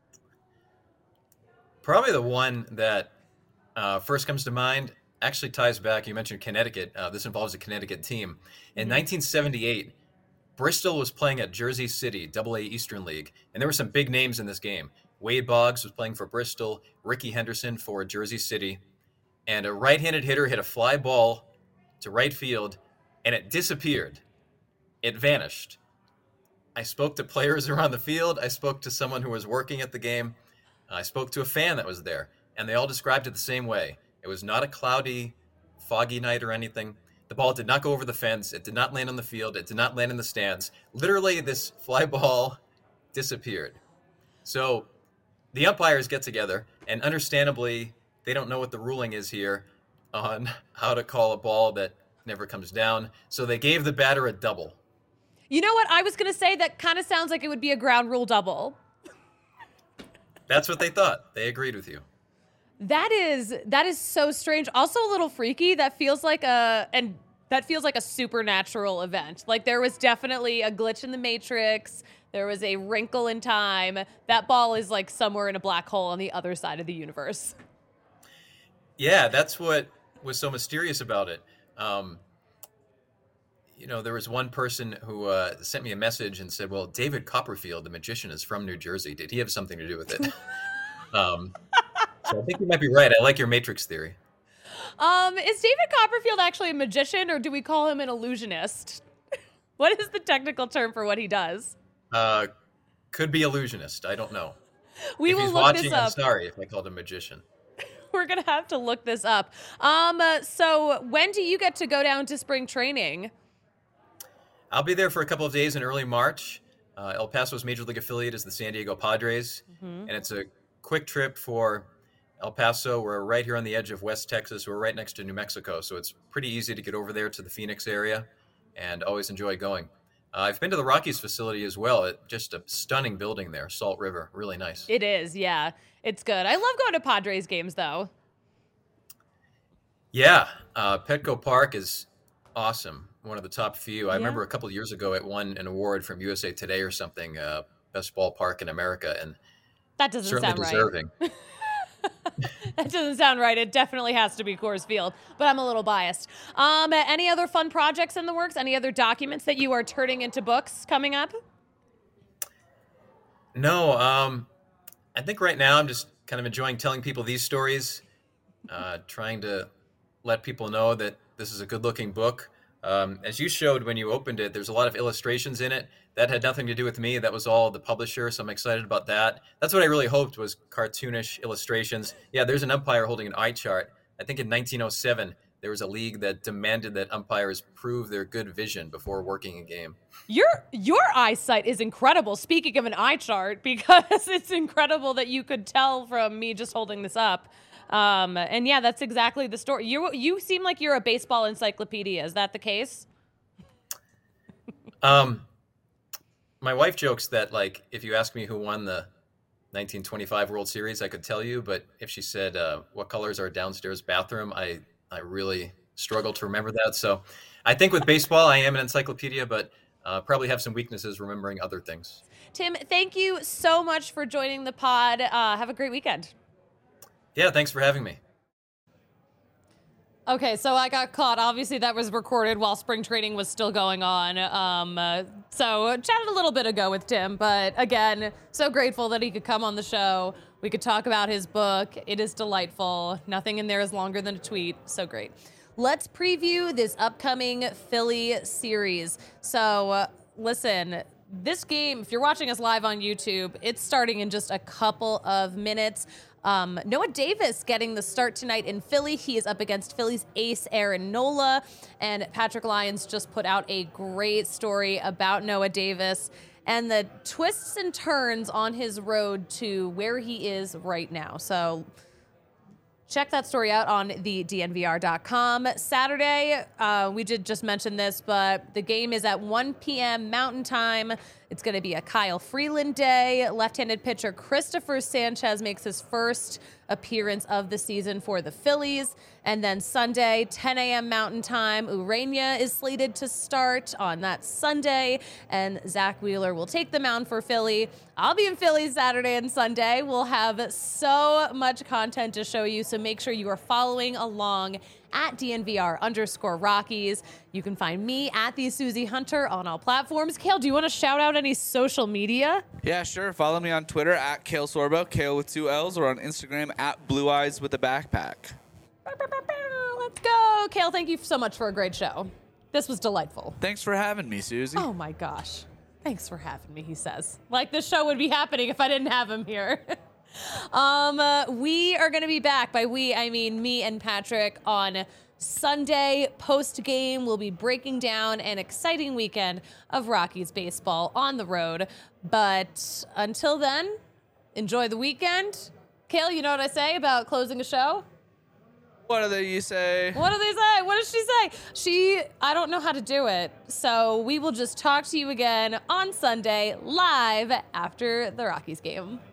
Probably the one that first comes to mind actually ties back. You mentioned Connecticut. This involves a Connecticut team. In 1978, Bristol was playing at Jersey City, AA Eastern League, and there were some big names in this game. Wade Boggs was playing for Bristol, Ricky Henderson for Jersey City, and a right-handed hitter hit a fly ball to right field, and it disappeared. It vanished. I spoke to players around the field. I spoke to someone who was working at the game. I spoke to a fan that was there, and they all described it the same way. It was not a cloudy, foggy night or anything. The ball did not go over the fence. It did not land on the field. It did not land in the stands. Literally, this fly ball disappeared. So the umpires get together, and understandably, they don't know what the ruling is here on how to call a ball that never comes down. So they gave the batter a double. You know what? I was going to say that kind of sounds like it would be a ground rule double. That's what they thought. They agreed with you. That is so strange. Also a little freaky. That feels like a supernatural event. Like there was definitely a glitch in the matrix. There was a wrinkle in time. That ball is like somewhere in a black hole on the other side of the universe. Yeah, that's what was so mysterious about it. There was one person who sent me a message and said, well, David Copperfield, the magician, is from New Jersey. Did he have something to do with it? So I think you might be right. I like your Matrix theory. Is David Copperfield actually a magician, or do we call him an illusionist? What is the technical term for what he does? Could be illusionist. I don't know. We if will he's look watching, this up. I'm sorry if I called him magician. We're going to have to look this up. So when do you get to go down to spring training? I'll be there for a couple of days in early March. El Paso's major league affiliate is the San Diego Padres, and it's a quick trip for El Paso. We're right here on the edge of West Texas. We're right next to New Mexico, so it's pretty easy to get over there to the Phoenix area, and always enjoy going. I've been to the Rockies facility as well. Just a stunning building there, Salt River. Really nice. It is, yeah. It's good. I love going to Padres games, though. Yeah, Petco Park is awesome. One of the top few. I remember a couple of years ago it won an award from USA Today or something, best ballpark in America, and that doesn't certainly sound deserving. Right. That doesn't sound right. It definitely has to be Coors Field, but I'm a little biased. Any other fun projects in the works? Any other documents that you are turning into books coming up? No, I think right now I'm just kind of enjoying telling people these stories, trying to let people know that this is a good-looking book. As you showed when you opened it, there's a lot of illustrations in it. That had nothing to do with me. That was all the publisher, so I'm excited about that. That's what I really hoped was cartoonish illustrations. Yeah, there's an umpire holding an eye chart. I think in 1907, there was a league that demanded that umpires prove their good vision before working a game. Your eyesight is incredible, speaking of an eye chart, because it's incredible that you could tell from me just holding this up. And yeah, that's exactly the story. You seem like you're a baseball encyclopedia. Is that the case? My wife jokes that, like, if you ask me who won the 1925 World Series, I could tell you. But if she said, what color is our downstairs bathroom, I really struggle to remember that. So I think with baseball, I am an encyclopedia, but probably have some weaknesses remembering other things. Tim, thank you so much for joining the pod. Have a great weekend. Yeah, thanks for having me. Okay, so I got caught. Obviously, that was recorded while spring training was still going on. So chatted a little bit ago with Tim, but again, so grateful that he could come on the show. We could talk about his book. It is delightful. Nothing in there is longer than a tweet. So great. Let's preview this upcoming Philly series. So listen, this game, if you're watching us live on YouTube, it's starting in just a couple of minutes. Noah Davis getting the start tonight in Philly. He is up against Philly's ace Aaron Nola, and Patrick Lyons just put out a great story about Noah Davis and the twists and turns on his road to where he is right now. So check that story out on the DNVR.com. Saturday, we did just mention this, but the game is at 1 p.m. Mountain Time. It's going to be a Kyle Freeland day. Left-handed pitcher Christopher Sanchez makes his first appearance of the season for the Phillies. And then Sunday, 10 a.m. Mountain Time, Urania is slated to start on that Sunday, and Zach Wheeler will take the mound for Philly. I'll be in Philly Saturday and Sunday. We'll have so much content to show you, so make sure you are following along at DNVR_Rockies. You can find me at the Susie Hunter on all platforms. Kale, do you want to shout out any social media? Yeah, sure. Follow me on Twitter at Kale Sorbo, Kale with 2 L's, or on Instagram at Blue Eyes with a Backpack. Let's go. Kale, thank you so much for a great show. This was delightful. Thanks for having me, Susie. Oh my gosh. Thanks for having me, he says. Like this show would be happening if I didn't have him here. We are going to be back. By we, I mean me and Patrick on Sunday post-game. We'll be breaking down an exciting weekend of Rockies baseball on the road. But until then, enjoy the weekend. Kale, you know what I say about closing a show? What do you say? What do they say? What does she say? I don't know how to do it. So we will just talk to you again on Sunday, live after the Rockies game.